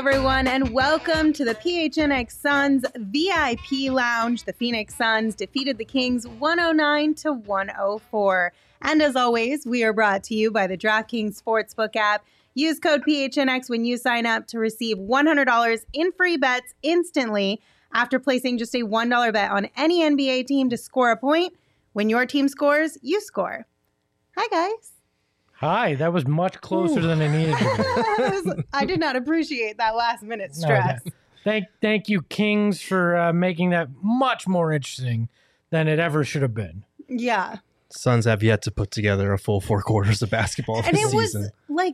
everyone, and welcome to the PHNX Suns VIP Lounge. The Phoenix Suns defeated the Kings 109-104. And as always, we are brought to you by the DraftKings Sportsbook app. Use code PHNX when you sign up to receive $100 in free bets instantly after placing just a $1 bet on any NBA team to score a point. When your team scores, you score. Hi, guys. Hi, that was much closer than it needed to be. I did not appreciate that last-minute stress. No, thank you, Kings, for making that much more interesting than it ever should have been. Yeah. Suns have yet to put together a full 4 quarters of basketball this season.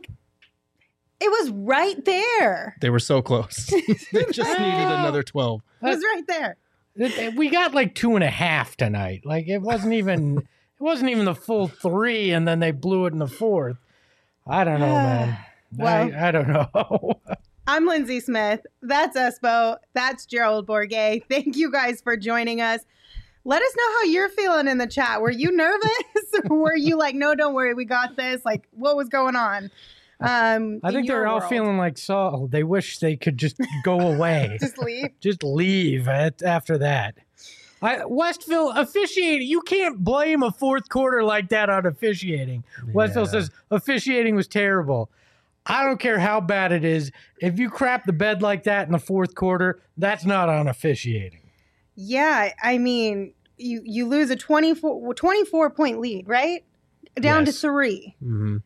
It was right there. They were so close. They just needed another 12. It was right there. We got like 2.5 tonight. Like it wasn't even the full 3, and then they blew it in the 4th. I don't know, man. Well, I don't know. I'm Lindsay Smith. That's Espo. That's Gerald Bourguet. Thank you guys for joining us. Let us know how you're feeling in the chat. Were you nervous? Or were you like, no, don't worry, we got this? Like, what was going on? I think they're all feeling like Saul. They wish they could just go away. Just leave? Just leave after that. Westville officiating. You can't blame a 4th quarter like that on officiating. Yeah. Westville says officiating was terrible. I don't care how bad it is. If you crap the bed like that in the 4th quarter, that's not on officiating. Yeah, I mean, you lose a 24-point lead, right? Down to 3. Mm-hmm.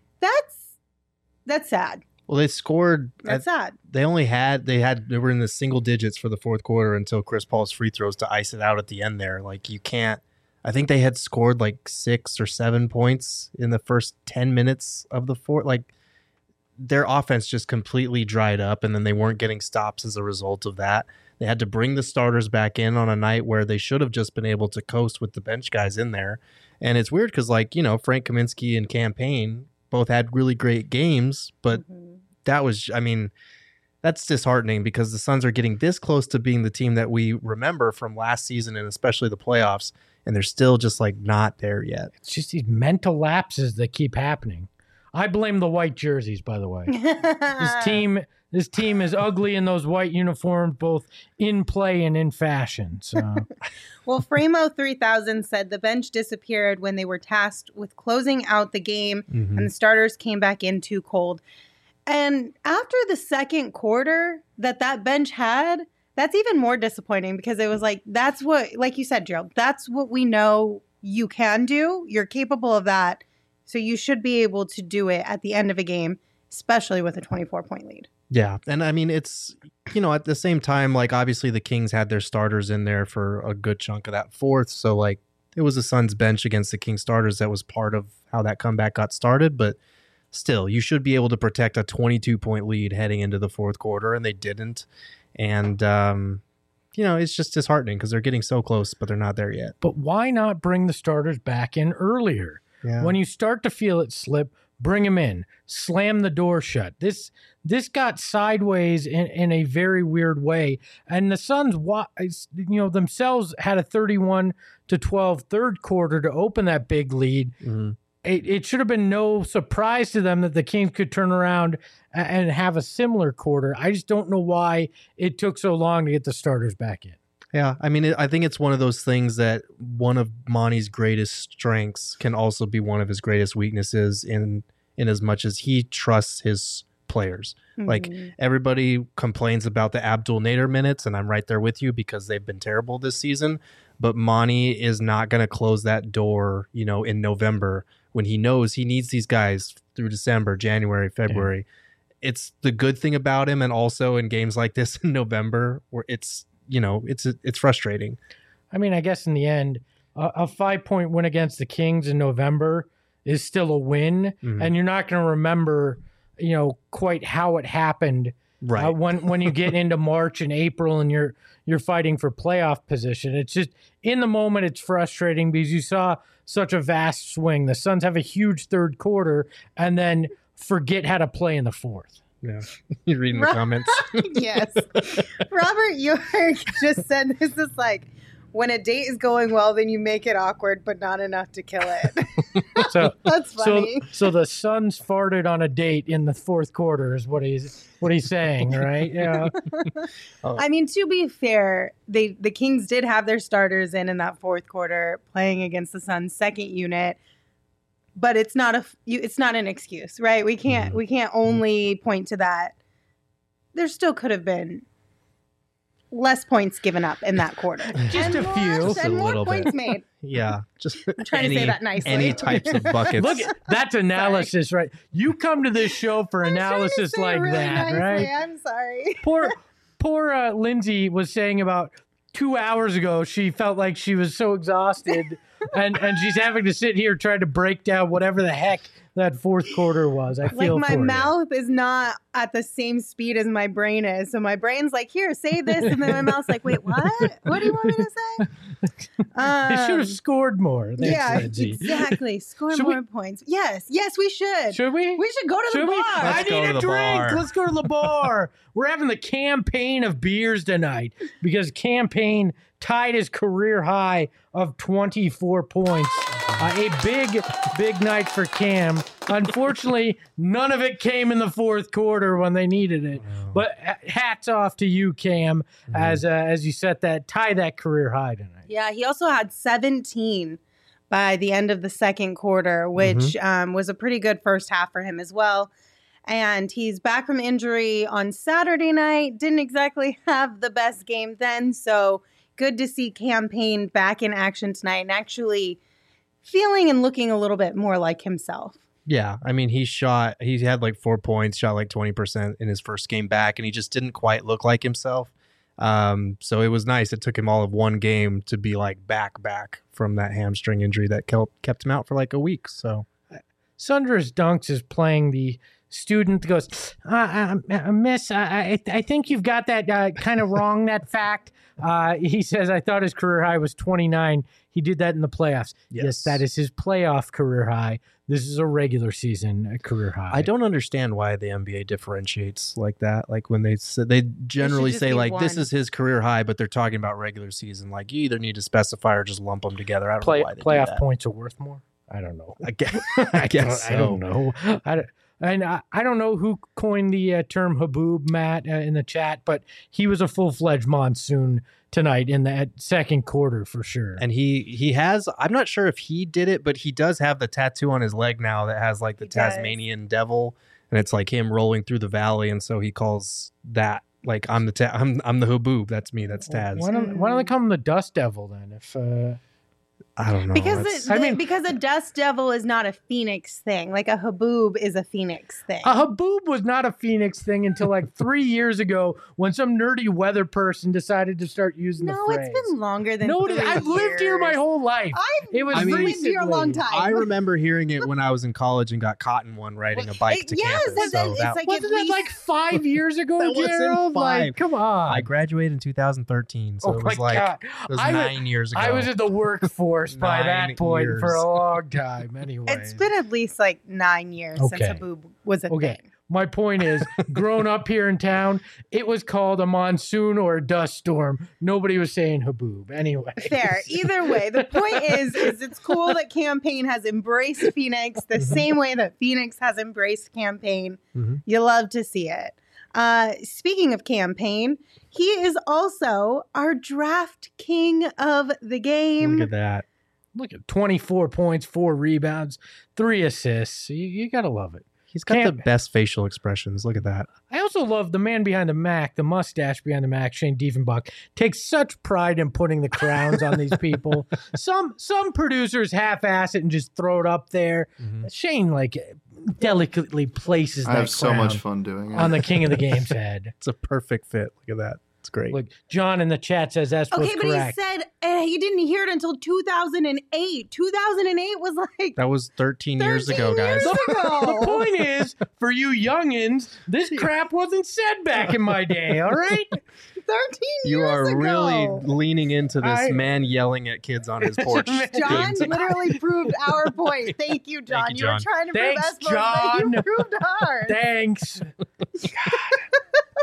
That's sad. Well, they scored. That's sad. They were in the single digits for the 4th quarter until Chris Paul's free throws to ice it out at the end there. Like you can't. I think they had scored like 6 or 7 points in the first 10 minutes of the 4th. Like their offense just completely dried up, and then they weren't getting stops as a result of that. They had to bring the starters back in on a night where they should have just been able to coast with the bench guys in there. And it's weird because, Frank Kaminsky and Campaign both had really great games, but that's disheartening because the Suns are getting this close to being the team that we remember from last season and especially the playoffs, and they're still just not there yet. It's just these mental lapses that keep happening. I blame the white jerseys, by the way. This team is ugly in those white uniforms, both in play and in fashion. So. Well, Framo 3000 said the bench disappeared when they were tasked with closing out the game, and the starters came back in too cold. And after the 2nd quarter that bench had, that's even more disappointing because it was that's what, like you said, Gerald, that's what we know you can do. You're capable of that. So you should be able to do it at the end of a game, especially with a 24-point lead. Yeah. And I mean, it's, at the same time, obviously the Kings had their starters in there for a good chunk of that 4th. So it was the Suns bench against the Kings starters that was part of how that comeback got started. But still, you should be able to protect a 22-point lead heading into the 4th quarter, and they didn't. And, it's just disheartening because they're getting so close, but they're not there yet. But why not bring the starters back in earlier? Yeah. When you start to feel it slip, bring them in, slam the door shut. This got sideways in a very weird way. And the Suns, themselves had a 31-12 3rd quarter to open that big lead. Mm-hmm. It should have been no surprise to them that the Kings could turn around and have a similar quarter. I just don't know why it took so long to get the starters back in. Yeah, I mean, I think it's one of those things that one of Monty's greatest strengths can also be one of his greatest weaknesses in as much as he trusts his players. Mm-hmm. Everybody complains about the Abdul Nader minutes, and I'm right there with you because they've been terrible this season. But Monty is not going to close that door, in November when he knows he needs these guys through December, January, February. Yeah. It's the good thing about him, and also in games like this in November where it's frustrating. I mean, I guess in the end, a 5-point win against the Kings in November is still a win, and you're not going to remember, quite how it happened. Right. When you get into March and April and you're fighting for playoff position. It's just in the moment it's frustrating because you saw such a vast swing. The Suns have a huge 3rd quarter and then forget how to play in the 4th. Yeah, you're reading the comments. Yes. Robert York just said this is when a date is going well, then you make it awkward, but not enough to kill it. So That's funny. So the Suns farted on a date in the fourth quarter is what he's saying, right? Yeah. I mean, to be fair, the Kings did have their starters in that fourth quarter playing against the Suns' second unit, but it's not an excuse, right? We can't only point to that. There still could have been less points given up in that quarter. Just a few. And Just a more little points bit. made. Yeah, just I'm trying to say that nicely. Any types of buckets. Look, that's analysis, right? You come to this show for analysis Say it like really that, nicely. right? I'm sorry. Poor Lindsay was saying about 2 hours ago she felt like she was so exhausted and she's having to sit here trying to break down whatever the heck that fourth quarter was. I feel Like my for you. mouth is not at the same speed as my brain is. So my brain's like, here, say this. And then my mouth's like, wait, what? What do you want me to say? They should have scored more. Thanks, Yeah, Lindsay. exactly. Score Should more points. Yes, we should. Should we? We should go to the Should we? bar. I Let's go need to a the drink. bar. Let's go to the bar. We're having the campaign of beers tonight because campaign tied his career high of 24 points. A big night for Cam. Unfortunately, none of it came in the fourth quarter when they needed it. But hats off to you, Cam, as you tie that career high tonight. Yeah, he also had 17 by the end of the second quarter, which was a pretty good first half for him as well. And he's back from injury on Saturday night. Didn't exactly have the best game then, so good to see Campaign back in action tonight and actually feeling and looking a little bit more like himself. Yeah, I mean, he had like 4 points, shot like 20% in his first game back, and he just didn't quite look like himself. So it was nice. It took him all of one game to be like back from that hamstring injury that kept him out for like a week. So Sundra's Dunks is playing the student that goes, Miss, I think you've got that kind of wrong, that fact. He says, I thought his career high was 29. He did that in the playoffs. Yes, that is his playoff career high. This is a regular season career high. I don't understand why the NBA differentiates like that. Like when they generally say like this is his career high, but they're talking about regular season. Like you either need to specify or just lump them together. I don't know why they do playoff that. points are worth more. I don't know. I guess so. I don't know. I don't know who coined the term Haboob, Matt, in the chat, but he was a full-fledged monsoon tonight in that second quarter for sure. And he has, I'm not sure if he did it, but he does have the tattoo on his leg now that has like the Tasmanian devil, and it's like him rolling through the valley, and so he calls that like I'm the Haboob. That's me. That's Taz. Why don't they call him the Dust Devil then? If I don't know. Because a dust devil is not a phoenix thing. Like a haboob is a phoenix thing. A haboob was not a phoenix thing until like 3 years ago when some nerdy weather person decided to start using the phrase. No, it's been longer than 3 years. I've lived here my whole life. I've lived here a long time. I remember hearing it when I was in college and got caught in one riding a bike to campus. It's like wasn't that like 5 years ago, That Gerald? wasn't 5. Like, come on. I graduated in 2013, so it was like it was 9 years ago. I was in the workforce by that point years. for a long time. Anyway, it's been at least like 9 years since haboob was a thing. My point is, growing up here in town, it was called a monsoon or a dust storm. Nobody was saying haboob. Anyway. Fair. Either way, the point is it's cool that Campaign has embraced Phoenix the same way that Phoenix has embraced Campaign. You love to see it. Speaking of Campaign, he is also our draft king of the game. Look at that. Look at 24 points, 4 rebounds, 3 assists. You got to love it. He's got the best facial expressions. Look at that. I also love the man behind the Mac, the mustache behind the Mac, Shane Diefenbach, takes such pride in putting the crowns on these people. Some producers half-ass it and just throw it up there. Shane, like, delicately places that I have so crown much fun doing it. on the king of the game's head. It's a perfect fit. Look at that. It's great. Look, John in the chat says that's what's correct. Okay, but he said he didn't hear it until 2008. 2008 was like... That was 13 years ago, guys. The point is, for you youngins, this crap wasn't said back in my day, all right? 13 years You are ago. really leaning into this man yelling at kids on his porch. John literally proved our point. Thank you, John. Thank you, You were John. trying to Thanks, prove us, but you John. proved ours. Thanks.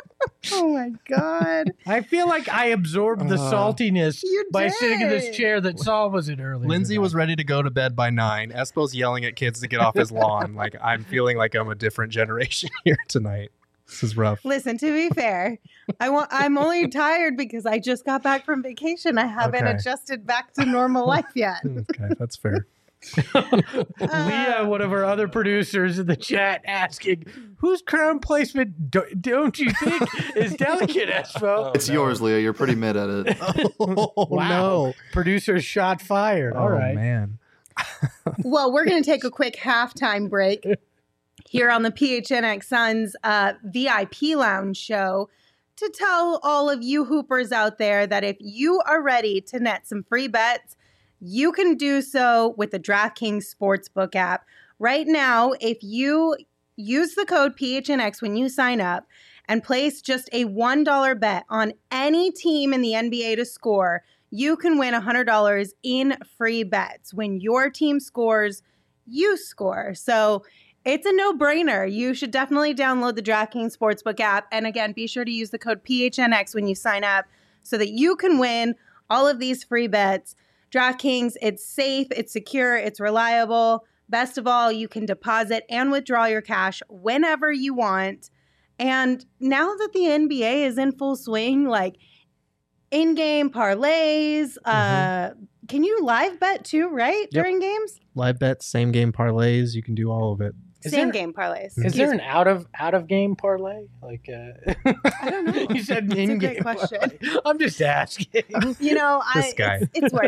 Oh my God. I feel like I absorbed the saltiness by sitting in this chair that Saul was in earlier. Lindsay was ready to go to bed by 9. Espo's yelling at kids to get off his lawn. Like, I'm feeling like I'm a different generation here tonight. This is rough. Listen, to be fair, I'm only tired because I just got back from vacation. I haven't adjusted back to normal life yet. Okay, that's fair. Leah, one of our other producers in the chat, asking, whose crown placement don't you think is delicate, Espo? It's yours, Leah. You're pretty mid at it. Oh, Wow. no. Producer shot fired. All right. Man. Well, we're going to take a quick halftime break here on the PHNX Suns VIP Lounge show to tell all of you hoopers out there that if you are ready to net some free bets, you can do so with the DraftKings Sportsbook app. Right now, if you use the code PHNX when you sign up and place just a $1 bet on any team in the NBA to score, you can win $100 in free bets. When your team scores, you score. So it's a no-brainer. You should definitely download the DraftKings Sportsbook app. And again, be sure to use the code PHNX when you sign up so that you can win all of these free bets. DraftKings, it's safe, it's secure, it's reliable. Best of all, you can deposit and withdraw your cash whenever you want. And now that the NBA is in full swing, like in-game parlays, can you live bet too, right? Yep. During games? Live bets, same game parlays. You can do all of it. Same game parlays. Is there an out of game parlay? Like I don't know. You said That's a in great game question. parlay. I'm just asking. You know, This guy. it's where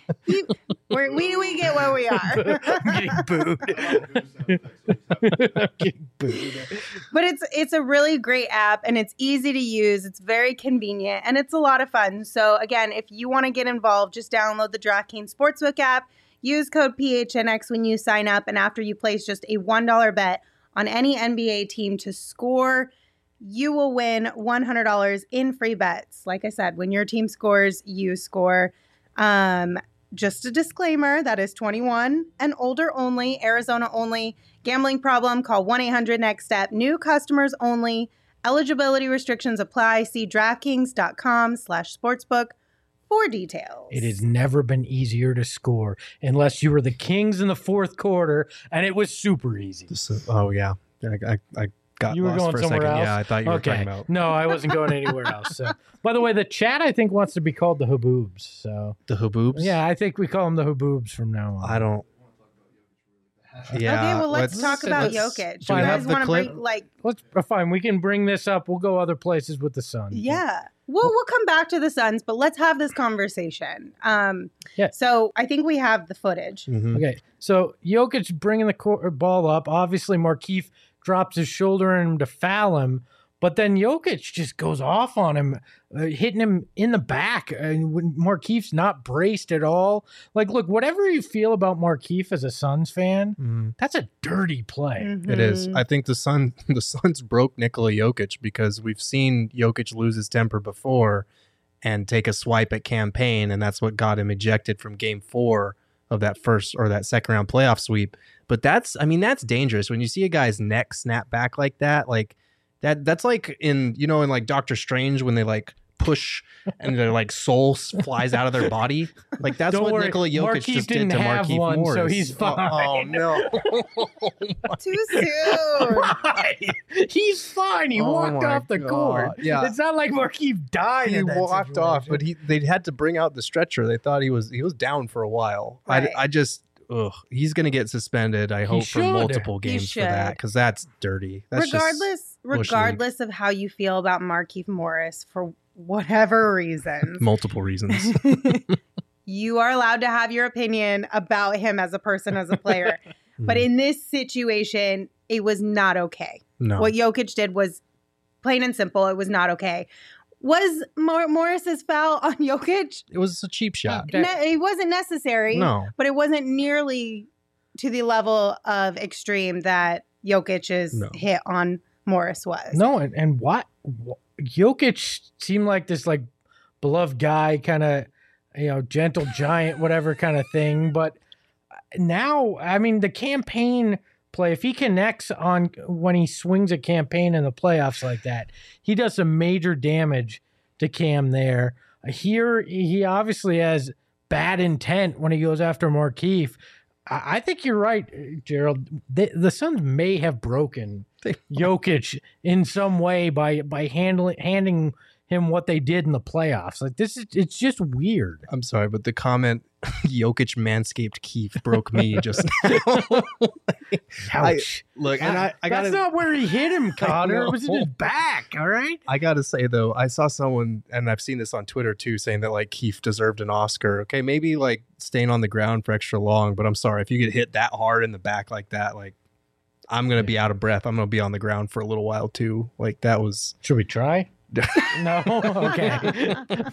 we get where we are. I'm getting booed. I'm getting booed. But it's a really great app and it's easy to use. It's very convenient and it's a lot of fun. So again, if you want to get involved, just download the DraftKings Sportsbook app. Use code PHNX when you sign up, and after you place just a $1 bet on any NBA team to score, you will win $100 in free bets. Like I said, when your team scores, you score. Just a disclaimer, that is 21 and older only, Arizona only. Gambling problem, call 1-800-NEXT-STEP. New customers only. Eligibility restrictions apply. See DraftKings.com/sportsbook for details. It has never been easier to score unless you were the Kings in the fourth quarter, and it was super easy. Oh, yeah. I got You were lost going for a somewhere second. else? Yeah, I thought you were talking about No, I wasn't going anywhere else. So. By the way, the chat, I think, wants to be called the Haboobs. So the Haboobs. yeah, I think we call them the Haboobs from now on. I don't. Yeah. Okay, well, let's talk about Jokic. Do we You have guys the want to clip? bring, like, Let's fine. We can bring this up. We'll go other places with the Sun. yeah. We'll come back to the Suns, but let's have this conversation. Yeah. So I think we have the footage. Mhm. Okay, so Jokic bringing the ball up. Obviously, Markieff drops his shoulder in him to foul him, but then Jokic just goes off on him, hitting him in the back. And when Markieff's not braced at all. Like, look, whatever you feel about Markieff as a Suns fan, Mhm. that's a dirty play. It is. Mhm. I think the Suns broke Nikola Jokic because we've seen Jokic lose his temper before and take a swipe at campaign, and that's what got him ejected from Game 4 of that first or that second round playoff sweep. But that's dangerous when you see a guy's neck snap back like that. Like that's like in like Doctor Strange when they like push and their like soul flies out of their body. Like that's Don't what worry, Nikola Jokic Markieff just didn't did to have Markieff one, Morris. so he's fine. Oh no. Too soon. Right. He's fine. He Oh walked my off the God. court. Yeah. It's not like Markieff died. He in that walked off, situation. but they had to bring out the stretcher. They thought he was down for a while. Right. I just he's gonna get suspended. I hope for should. multiple He games for that should. because that's dirty. That's regardless of how you feel about Markieff Morris, for whatever reasons, multiple reasons. you are allowed to have your opinion about him as a person, as a player. But in this situation, it was not okay. No, What Jokic did was plain and simple. It was not okay. Was Morris's foul on Jokic? it was a cheap shot. It wasn't necessary. No, But it wasn't nearly to the level of extreme that Jokic's No. hit on Morris was. No, and what Jokic seemed like this like beloved guy, kind of gentle giant, whatever kind of thing. But now, I mean, the campaign play. If he connects on when he swings a campaign in the playoffs like that, he does some major damage to Cam there. Here, he obviously has bad intent when he goes after Markieff. I think you're right, Gerald. The Suns may have broken Jokic in some way by handing him what they did in the playoffs. Like it's just weird. I'm sorry, but the comment Jokic manscaped Keith broke me just now. Ouch. I That's gotta, not where he hit him, Connor. It was in his back, all right? I gotta say though, I saw someone, and I've seen this on Twitter too, saying that like Keith deserved an Oscar. Okay, maybe like staying on the ground for extra long, but I'm sorry if you get hit that hard in the back like that, like I'm gonna be out of breath. I'm gonna be on the ground for a little while too. Like that was. Should we try? No? Okay.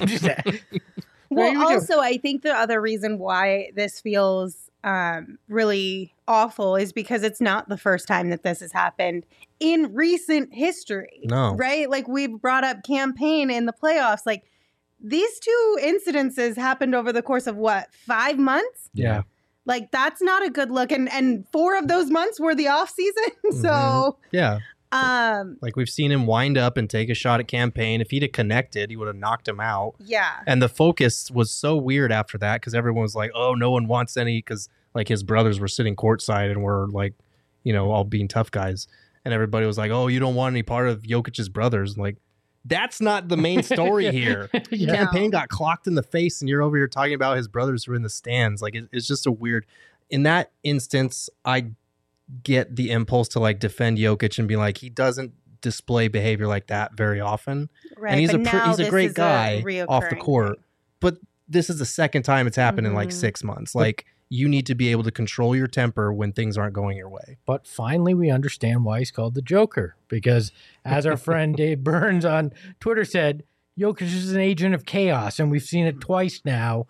Well, also, I think the other reason why this feels really awful is because it's not the first time that this has happened in recent history. No. Right? Like, we've brought up campaign in the playoffs. Like, these two incidences happened over the course of, 5 months? Yeah. Like, that's not a good look. And 4 of those months were the off season. So, yeah. Like we've seen him wind up and take a shot at campaign. If he'd have connected, he would have knocked him out. Yeah. And the focus was so weird after that because everyone was like, oh, no one wants any, because like his brothers were sitting courtside and were like, all being tough guys. And everybody was like, oh, you don't want any part of Jokic's brothers. Like, that's not the main story here. Yeah. Campaign got clocked in the face and you're over here talking about his brothers who are in the stands. Like, it's just a weird. In that instance, I get the impulse to like defend Jokic and be like, he doesn't display behavior like that very often. Right. And he's but a great guy off the reoccurring court. thing. But this is the second time it's happened in like 6 months. Like, you need to be able to control your temper when things aren't going your way. But finally, we understand why he's called the Joker. Because as our friend Dave Burns on Twitter said, Jokic is an agent of chaos. And we've seen it twice now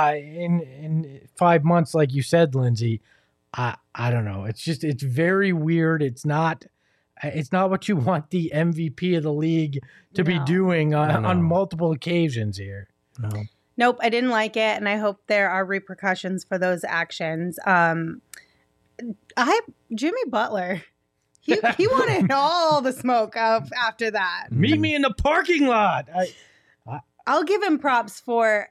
in 5 months, like you said, Lindsay. I don't know. It's very weird. It's not what you want the MVP of the league to be doing on multiple occasions here. No. Nope, I didn't like it, and I hope there are repercussions for those actions. Jimmy Butler, he wanted all the smoke after that. Meet me in the parking lot. I'll give him props for.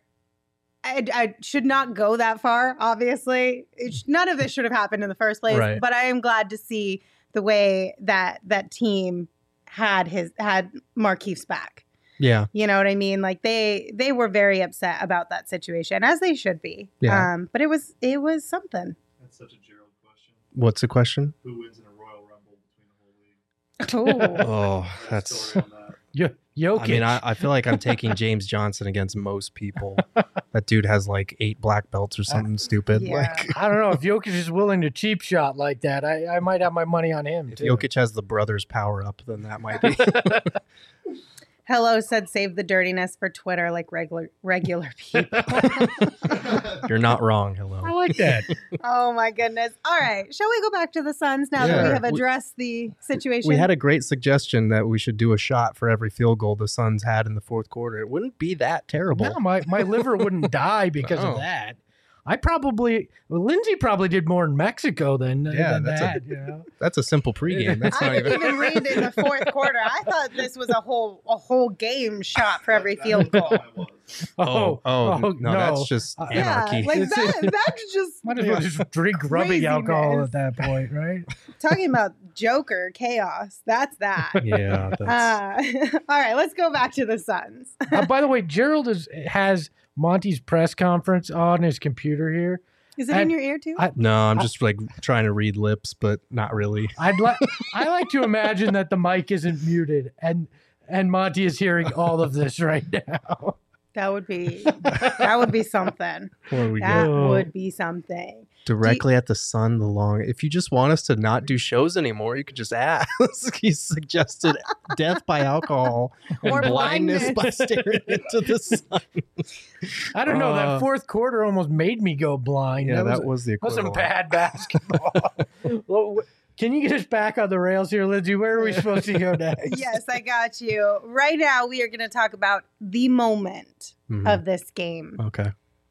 I should not go that far, obviously. None of this should have happened in the first place, right. But I am glad to see the way that team had Markieff's back. Yeah. You know what I mean? Like they were very upset about that situation, as they should be. Yeah. But it was something. That's such a Gerald question. What's the question? Who wins in a Royal Rumble between the whole league? Oh, Oh, that's. Story on that. Jokic. I mean, I feel like I'm taking James Johnson against most people. That dude has like 8 black belts or something stupid. Yeah. Like, I don't know if Jokic is willing to cheap shot like that. I might have my money on him. if Too. Jokic has the brothers power up, then that might be. Hello said save the dirtiness for Twitter like regular people. You're not wrong. Hello. I like that. Oh my goodness. All right. Shall we go back to the Suns now that we Yeah. have addressed the situation? We had a great suggestion that we should do a shot for every field goal the Suns had in the fourth quarter. It wouldn't be that terrible. No, my liver wouldn't die because No. of that. Lindsay probably did more in Mexico than that's that. You know? That's a simple pregame. That's I not didn't even. even read in the fourth quarter. I thought this was a whole game shot for every field goal. I was. No, that's just anarchy. Yeah, like that's just Might as well just drink rubbing alcohol at that point, right? talking about Joker chaos. That's that. Yeah. That's, All right, let's go back to the Suns. By the way, Gerald has Monty's press conference on his computer here. Is it in your ear too? no, I'm just like trying to read lips, but not really. I like to imagine that the mic isn't muted and Monty is hearing all of this right now. That would be something. Where we That go would be something. directly at the sun. If you just want us to not do shows anymore, you could just ask. He suggested death by alcohol and Or blindness by staring into the sun. I don't know. That fourth quarter almost made me go blind. Yeah, that was the That was equivalent. some bad basketball. Well, can you get us back on the rails here, Lindsay? Where are we supposed to go next? Yes, I got you. Right now, we are going to talk about the moment Mhm. of this game. Okay.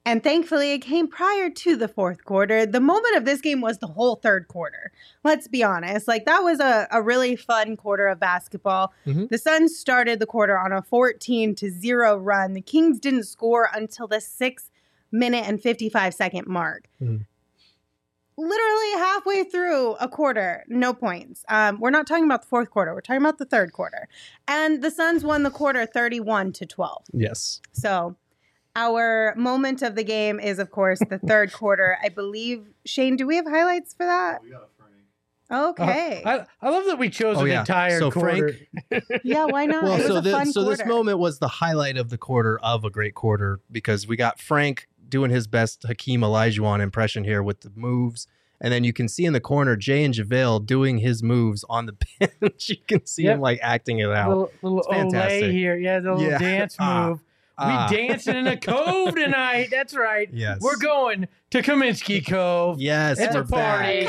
And thankfully, it came prior to the fourth quarter. The moment of this game was the whole third quarter. Let's be honest. Like, that was a really fun quarter of basketball. Mhm. The Suns started the quarter on a 14-0 run. The Kings didn't score until the 6-minute and 55-second mark. Mhm. Literally halfway through a quarter, no points. We're not talking about the fourth quarter. We're talking about the third quarter. And the Suns won the quarter 31-12. Yes. So our moment of the game is, of course, the third quarter. I believe, Shane, do we have highlights for that? We got Frank. Okay. I love that we chose Oh, an yeah. entire So quarter. Yeah, why not? Well, It was so a fun this quarter. moment was the highlight of the quarter of a great quarter because we got Frank doing his best Hakeem Olajuwon impression here with the moves. And then you can see in the corner Jay and JaVale doing his moves on the bench. You can see Yep. him like acting it out. Little It's fantastic. Olay here. Yeah, the little Yeah. dance move. We dancing in a cove tonight. That's right. Yes. We're going to Kaminsky Cove. Yes, It's we're a party.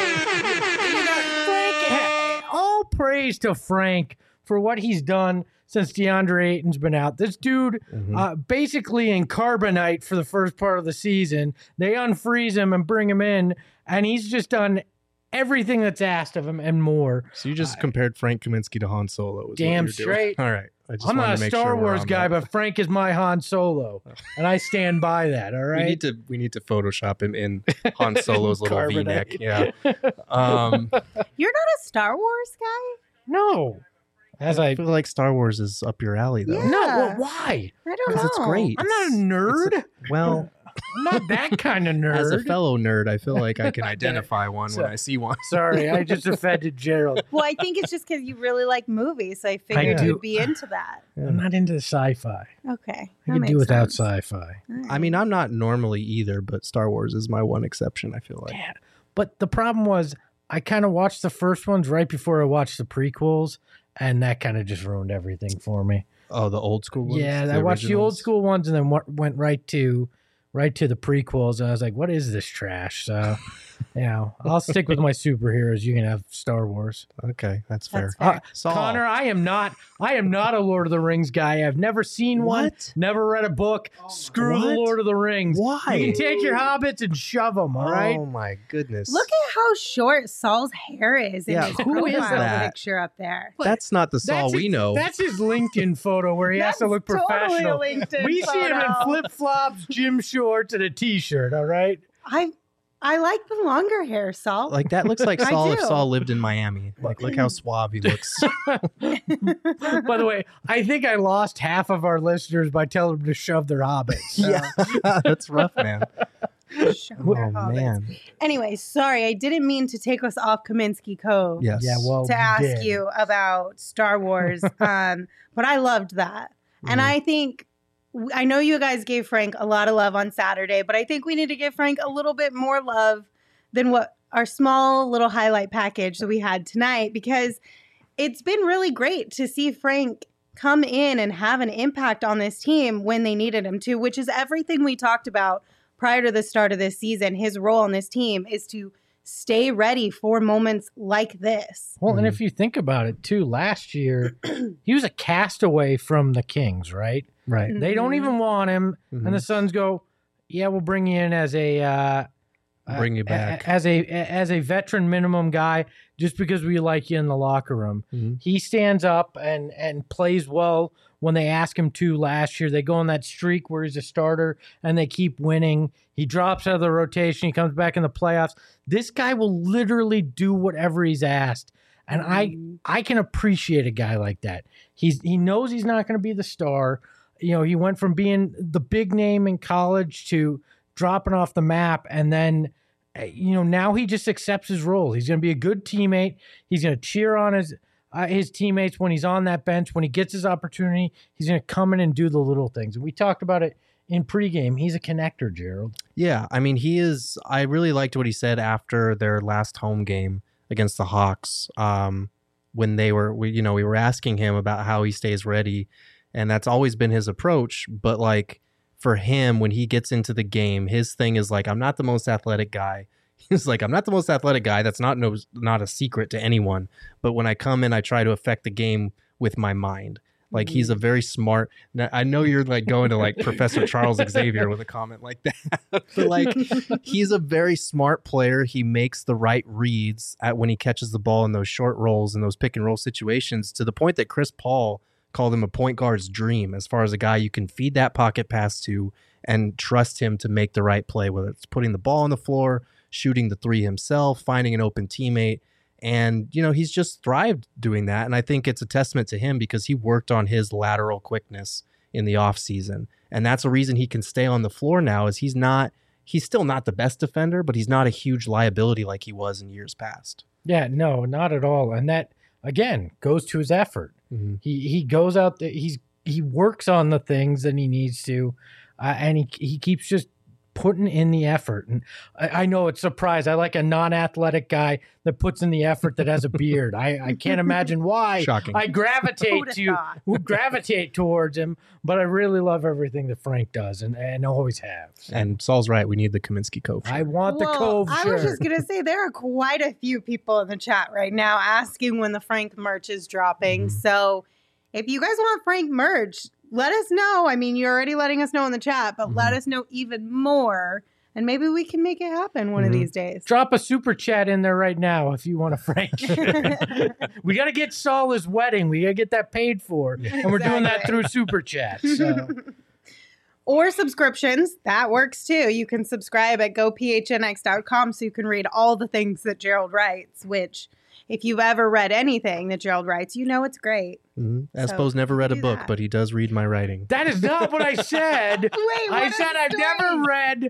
back. All praise to Frank for what he's done since DeAndre Ayton's been out. This dude, basically in carbonite for the first part of the season. They unfreeze him and bring him in, and he's just done everything that's asked of him and more. So you just compared Frank Kaminsky to Han Solo. is what Damn you're doing. straight. All right. I just I'm wanted not a to make Star sure we're Wars on guy, that. but Frank is my Han Solo, and I stand by that. All right. We need to Photoshop him in Han Solo's little Carbonite. V-neck. Yeah. You're not a Star Wars guy? No. As I I feel like Star Wars is up your alley, though. Yeah. no, well, why? I don't know. Because it's great. I'm not a nerd. Well, I'm not that kind of nerd. as a fellow nerd, I feel like I can identify one So- when I see one. Sorry, I just offended Gerald. Well, I think it's just because you really like movies. So I figured do. you'd be into that. I'm not into sci-fi. Okay. I that could makes do without sense. sci-fi. All right. I mean, I'm not normally either, but Star Wars is my one exception, I feel like. Yeah. But the problem was I kind of watched the first ones right before I watched the prequels, and that kind of just ruined everything for me. Oh, the old school ones? Yeah, The I watched the old originals? school ones and then went right to the prequels, and I was like, what is this trash? So, I'll stick with my superheroes. You can have Star Wars. Okay, that's fair. That's fair. Saul. Connor, I am not a Lord of the Rings guy. I've never seen one, What? never read a book. Screw the What? Lord of the Rings. Why? You can take your hobbits and shove them, all right? Oh, my goodness. Look at how short Saul's hair is in Yeah, his who is profile that? picture up there. That's not the Saul we know. That's his LinkedIn photo where he has to look Totally professional. a LinkedIn We see him in photo. flip-flops, gym shorts, and a t-shirt, all right? I like the longer hair, Saul. Like, that looks like I Saul if do. Saul lived in Miami. Like, look how suave he looks. By the way, I think I lost half of our listeners by telling them to shove their hobbits. So. Yeah, that's rough, man. Show Oh, their hobbits. man. Anyway, sorry, I didn't mean to take us off Kaminsky Cove Yes. Yeah, well, to ask did. you about Star Wars, but I loved that. And Mhm. I think, I know you guys gave Frank a lot of love on Saturday, but I think we need to give Frank a little bit more love than what our small little highlight package that we had tonight, because it's been really great to see Frank come in and have an impact on this team when they needed him to, which is everything we talked about prior to the start of this season. His role on this team is to stay ready for moments like this. Well, and if you think about it, too, last year, he was a castaway from the Kings, right? Right. They don't even want him, Mhm. and the Suns go, yeah, we'll bring you in as a... Bring you back. as a veteran minimum guy, just because we like you in the locker room. Mhm. He stands up and plays well when they ask him to. Last year, they go on that streak where he's a starter and they keep winning. He drops out of the rotation. He comes back in the playoffs. This guy will literally do whatever he's asked, and I can appreciate a guy like that. He knows he's not going to be the star. He went from being the big name in college to dropping off the map, and then now he just accepts his role. He's going to be a good teammate. He's going to cheer on his teammates when he's on that bench. When he gets his opportunity, he's going to come in and do the little things. And we talked about it in pregame. He's a connector, Gerald. Yeah, I mean, he is. I really liked what he said after their last home game against the Hawks. When we were asking him about how he stays ready, and that's always been his approach. But like for him, when he gets into the game, his thing is like, I'm not the most athletic guy. He's like, I'm not the most athletic guy. That's not a secret to anyone. But when I come in, I try to affect the game with my mind. Like he's a very smart. Now, I know you're like going to like Professor Charles Xavier with a comment like that, but like he's a very smart player. He makes the right reads at when he catches the ball in those short rolls and those pick and roll situations, to the point that Chris Paul called him a point guard's dream, as far as a guy you can feed that pocket pass to and trust him to make the right play, whether it's putting the ball on the floor, shooting the three himself, finding an open teammate. And, you know, he's just thrived doing that. And I think it's a testament to him because he worked on his lateral quickness in the offseason. And that's the reason he can stay on the floor now, is he's still not the best defender, but he's not a huge liability like he was in years past. Yeah, no, not at all. And that, again, goes to his effort. Mm-hmm. He goes out there, he works on the things that he needs to, and he keeps just putting in the effort. And I know it's a surprise. I like a non-athletic guy that puts in the effort that has a beard. I can't imagine why. Shocking. I gravitate towards him, but I really love everything that Frank does and always have. And Saul's right. We need the Kaminsky Cove shirt. I want the Cove shirt. I was just going to say, there are quite a few people in the chat right now asking when the Frank merch is dropping. Mm-hmm. So if you guys want Frank merch, let us know. I mean, you're already letting us know in the chat, but let us know even more, and maybe we can make it happen one of these days. Drop a super chat in there right now if you want a Frank. We got to get Saul his wedding. We got to get that paid for, and we're doing that through super chat. So. Or subscriptions. That works too. You can subscribe at gophnx.com so you can read all the things that Gerald writes, which if you've ever read anything that Gerald writes, you know it's great. Mm-hmm. Espo's never read a book, but he does read my writing. That is not what I said. Wait, I said I've never read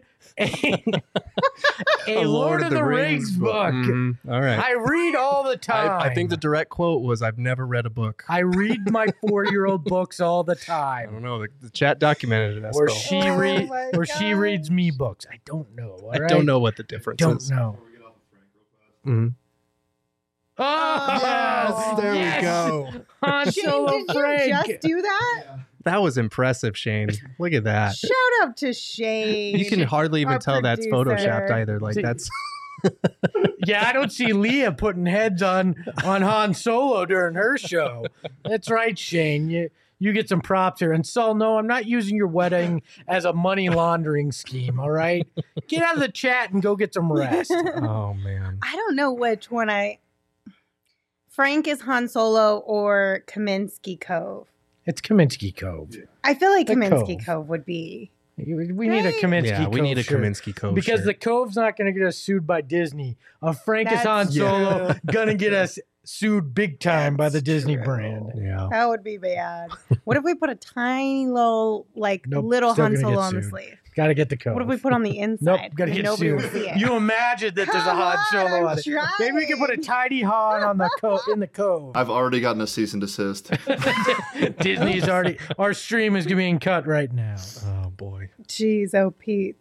a Lord of the Rings book. Mm-hmm. All right. I read all the time. I think the direct quote was, "I've never read a book." I read my 4-year-old books all the I time. don't know. The chat documented it. Or Espo. she reads me books. I don't know. All I right? don't know what the difference Don't is. know. Mm-hmm. Oh, Yes, there we go. Han Shane, Solo did Frank. you just do that? That was impressive, Shane. Look at that. Shout out to Shane. You can hardly even our tell that's producer. photoshopped either. Like See- that's Yeah, I don't see Leah putting heads on Han Solo during her show. That's right, Shane. You get some props here. And Saul, no, I'm not using your wedding as a money laundering scheme, all right? Get out of the chat and go get some rest. oh man. I don't know which one Frank is Han Solo or Kaminsky Cove. It's Kaminsky Cove. I feel like The Kaminsky Cove. Cove would be. We need a Kaminsky Yeah, Cove we need a shirt. Kaminsky Cove Because shirt. the Cove's not going to get us sued by Disney. Frank is Han That's Solo true. going to get us sued big time by the That's Disney true. brand. Yeah. That would be bad. What if we put a tiny little, Nope, little still Han gonna Solo get on the sued. sleeve? Got to get the Cove. What if we put on the inside? Nope, got to and get nobody sued. would see it? You imagine that there's a Come Han Solo on, on it. Maybe we can put a tiny Han on the in the Cove. I've already gotten a cease and desist. Disney's already. Our stream is being cut right now. Oh boy. Jeez, oh Pete.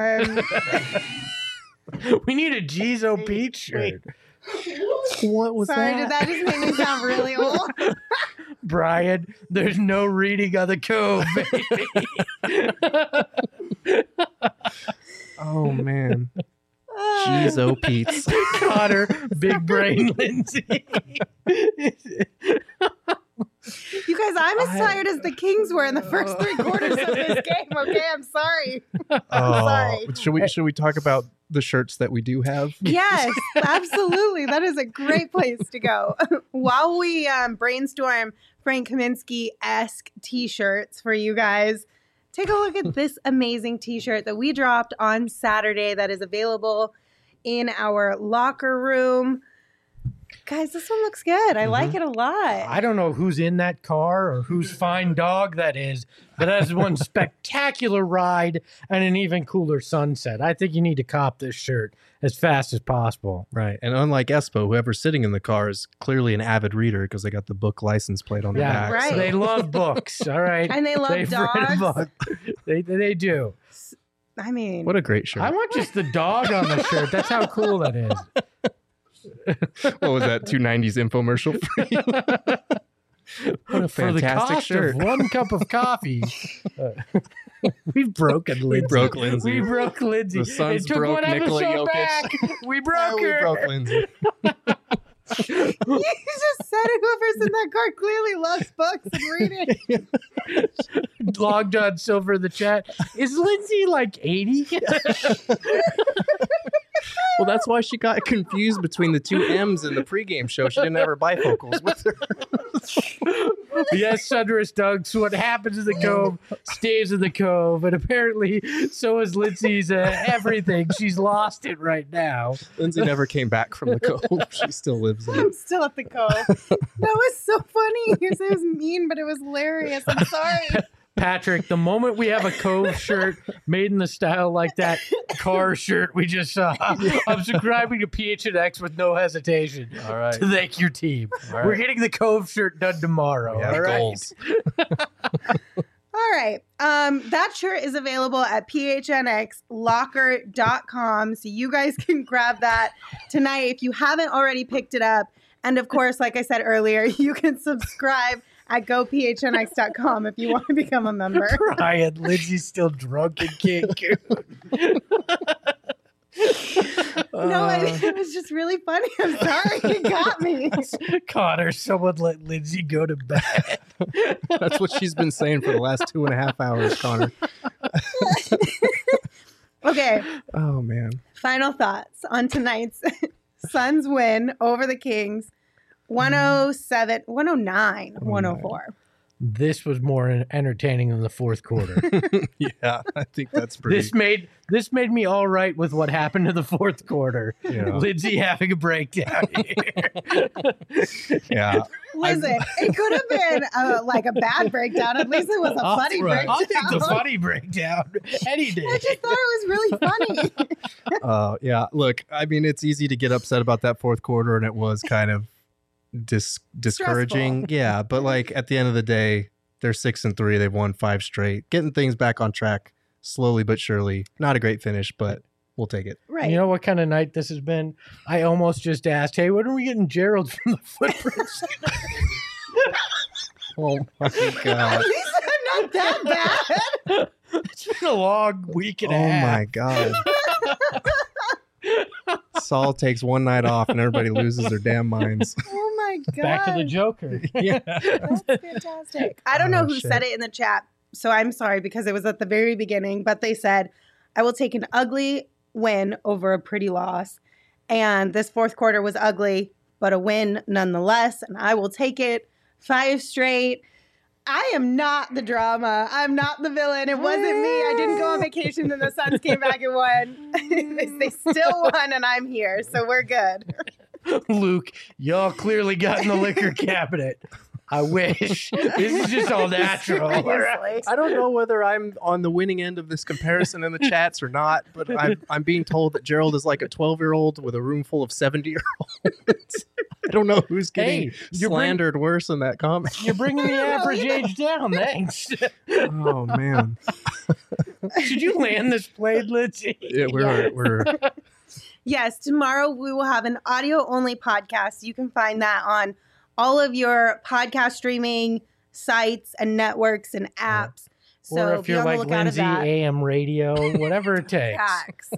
We need a G's O Pete shirt. What was Sorry, did that just make me sound really old? Brian, there's no reading on the Cove, baby. Oh man. Jeez, oh Pete's. Connor, big brain Lindsay. You guys, I'm as tired as the Kings were in the first 3 quarters of this game. Okay, I'm sorry. Oh, should we talk about the shirts that we do have? Yes, absolutely. That is a great place to go. While we brainstorm Frank Kaminsky-esque t-shirts for you guys, take a look at this amazing t-shirt that we dropped on Saturday that is available in our locker room. Guys, this one looks good. I like it a lot. I don't know who's in that car or whose fine dog that is, but that is one spectacular ride and an even cooler sunset. I think you need to cop this shirt as fast as possible. Right. And unlike Espo, whoever's sitting in the car is clearly an avid reader because they got the book license plate on the Yeah, back. Right. so- They love books, all right? And they love They've read a dogs. book. They do. I mean, What a great shirt. I want just the dog on the shirt. That's how cool that is. What was that? 290s infomercial for you? What a For the fantastic cost shirt. of 1 cup of coffee. We've broken Lindsay. We broke Lindsay. We broke Lindsay. The Suns it took broke one Nikola episode Jokic. back. We broke We her. broke Lindsay. You just said whoever's in that car clearly loves books and reading. Long John Silver in the chat. Is Lindsay like 80? Well, that's why she got confused between the two M's in the pregame show. She didn't have her bifocals with her. Yes, Sunderous Dunks. What happens in the Cove stays in the Cove. And apparently, so is Lindsay's everything. She's lost it right now. Lindsay never came back from the Cove. She still lives there. I'm still at the Cove. That was so funny. You said it was mean, but it was hilarious. I'm sorry. Patrick, the moment we have a Cove shirt made in the style like that car shirt we just saw, I'm subscribing to PHNX with no hesitation. All right. To thank your team. All right. We're getting the Cove shirt done tomorrow. We have all right. goals. All right. That shirt is available at phnxlocker.com. So you guys can grab that tonight if you haven't already picked it up. And of course, like I said earlier, you can subscribe at gophnx.com if you want to become a member. Ryan, Lindsay's still drunk in Cancun. No, I mean, it was just really funny. I'm sorry. It got me. Connor, someone let Lindsay go to bed. That's what she's been saying for the last 2.5 hours, Connor. Okay. Oh, man. Final thoughts on tonight's Suns win over the Kings. 109, 104. This was more entertaining than the fourth quarter. Yeah, I think that's pretty. This made me all right with what happened to the fourth quarter. Yeah. Lindsay having a breakdown here. Yeah. Listen, it could have been like a bad breakdown. At least it was a funny breakdown. I'll take the funny breakdown any day. I just thought it was really funny. Yeah. Look, I mean, it's easy to get upset about that fourth quarter, and it was kind of discouraging. Stressful. Yeah, but like at the end of the day, they're 6-3. They've won 5 straight, getting things back on track slowly but surely. Not a great finish, but we'll take it. Right. You know what kind of night this has been? I almost just asked, hey, when are we getting Gerald from the Footprints? Oh my At god. least I'm not that bad. It's been a long week and a Oh half. my god. Saul takes one night off and everybody loses their damn minds. Oh my god. Back to the Joker. Yeah. That's fantastic. I don't know who said it in the chat, so I'm sorry because it was at the very beginning, but they said, I will take an ugly win over a pretty loss. And this fourth quarter was ugly, but a win nonetheless. And I will take it 5 straight. I am not the drama. I'm not the villain. It wasn't me. I didn't go on vacation and the Suns came back and won. They still won and I'm here. So we're good. Luke, y'all clearly got in the liquor cabinet. I wish. This is just all natural. Seriously. I don't know whether I'm on the winning end of this comparison in the chats or not, but I'm being told that Gerald is like a 12-year-old with a room full of 70-year-olds. I don't know who's getting slandered worse in that comment. You're bringing the average age down. Thanks. Oh man, Should you land this plane, Lindsay? yeah, we're Yes, tomorrow we will have an audio-only podcast. You can find that on all of your podcast streaming sites and networks and apps. So Or if be you're on the like lookout Lindsay, of that. AM radio, whatever it takes. Facts.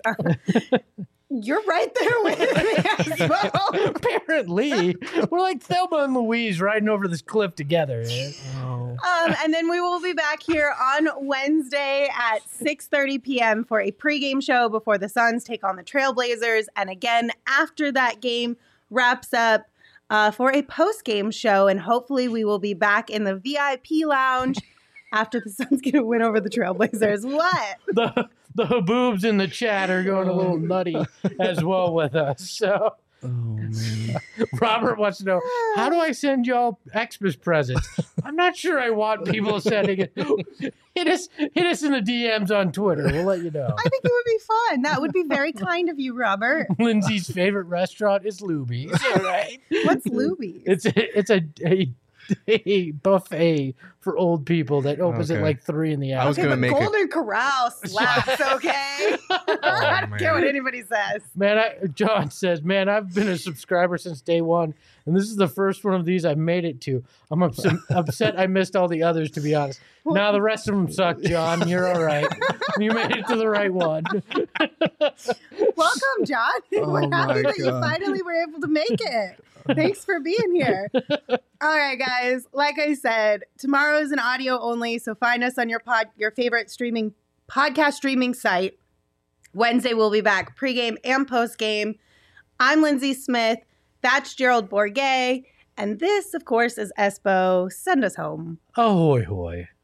You're right there with me as well. Apparently, we're like Thelma and Louise riding over this cliff together. And then we will be back here on Wednesday at 6:30 p.m. for a pregame show before the Suns take on the Trailblazers. And again, after that game wraps up, for a post-game show. And hopefully we will be back in the VIP lounge after the Suns get a win over the Trailblazers. What? The haboobs in the chat are going a little nutty as well with us. So oh man. Robert wants to know, how do I send y'all Xmas presents? I'm not sure I want people sending it. Hit us in the DMs on Twitter. We'll let you know. I think it would be fun. That would be very kind of you, Robert. Lindsay's favorite restaurant is Luby's. All right. What's Luby's? It's a buffet for old people that opens at like 3 in the I was afternoon. Okay, gonna but make Golden Corral slaps, okay? I don't care what anybody says. Man, John says, man, I've been a subscriber since day one, and this is the first one of these I've made it to. I'm upset I missed all the others, to be honest. Now the rest of them suck, John. You're all right. You made it to the right one. Welcome, John. Oh We're happy my that you God. finally were able to make it. Thanks for being here. All right, guys. Like I said, tomorrow is an audio only, so find us on your favorite podcast streaming site. Wednesday, we'll be back pregame and postgame. I'm Lindsay Smith. That's Gerald Bourguet. And this, of course, is Espo. Send us home. Ahoy, hoy.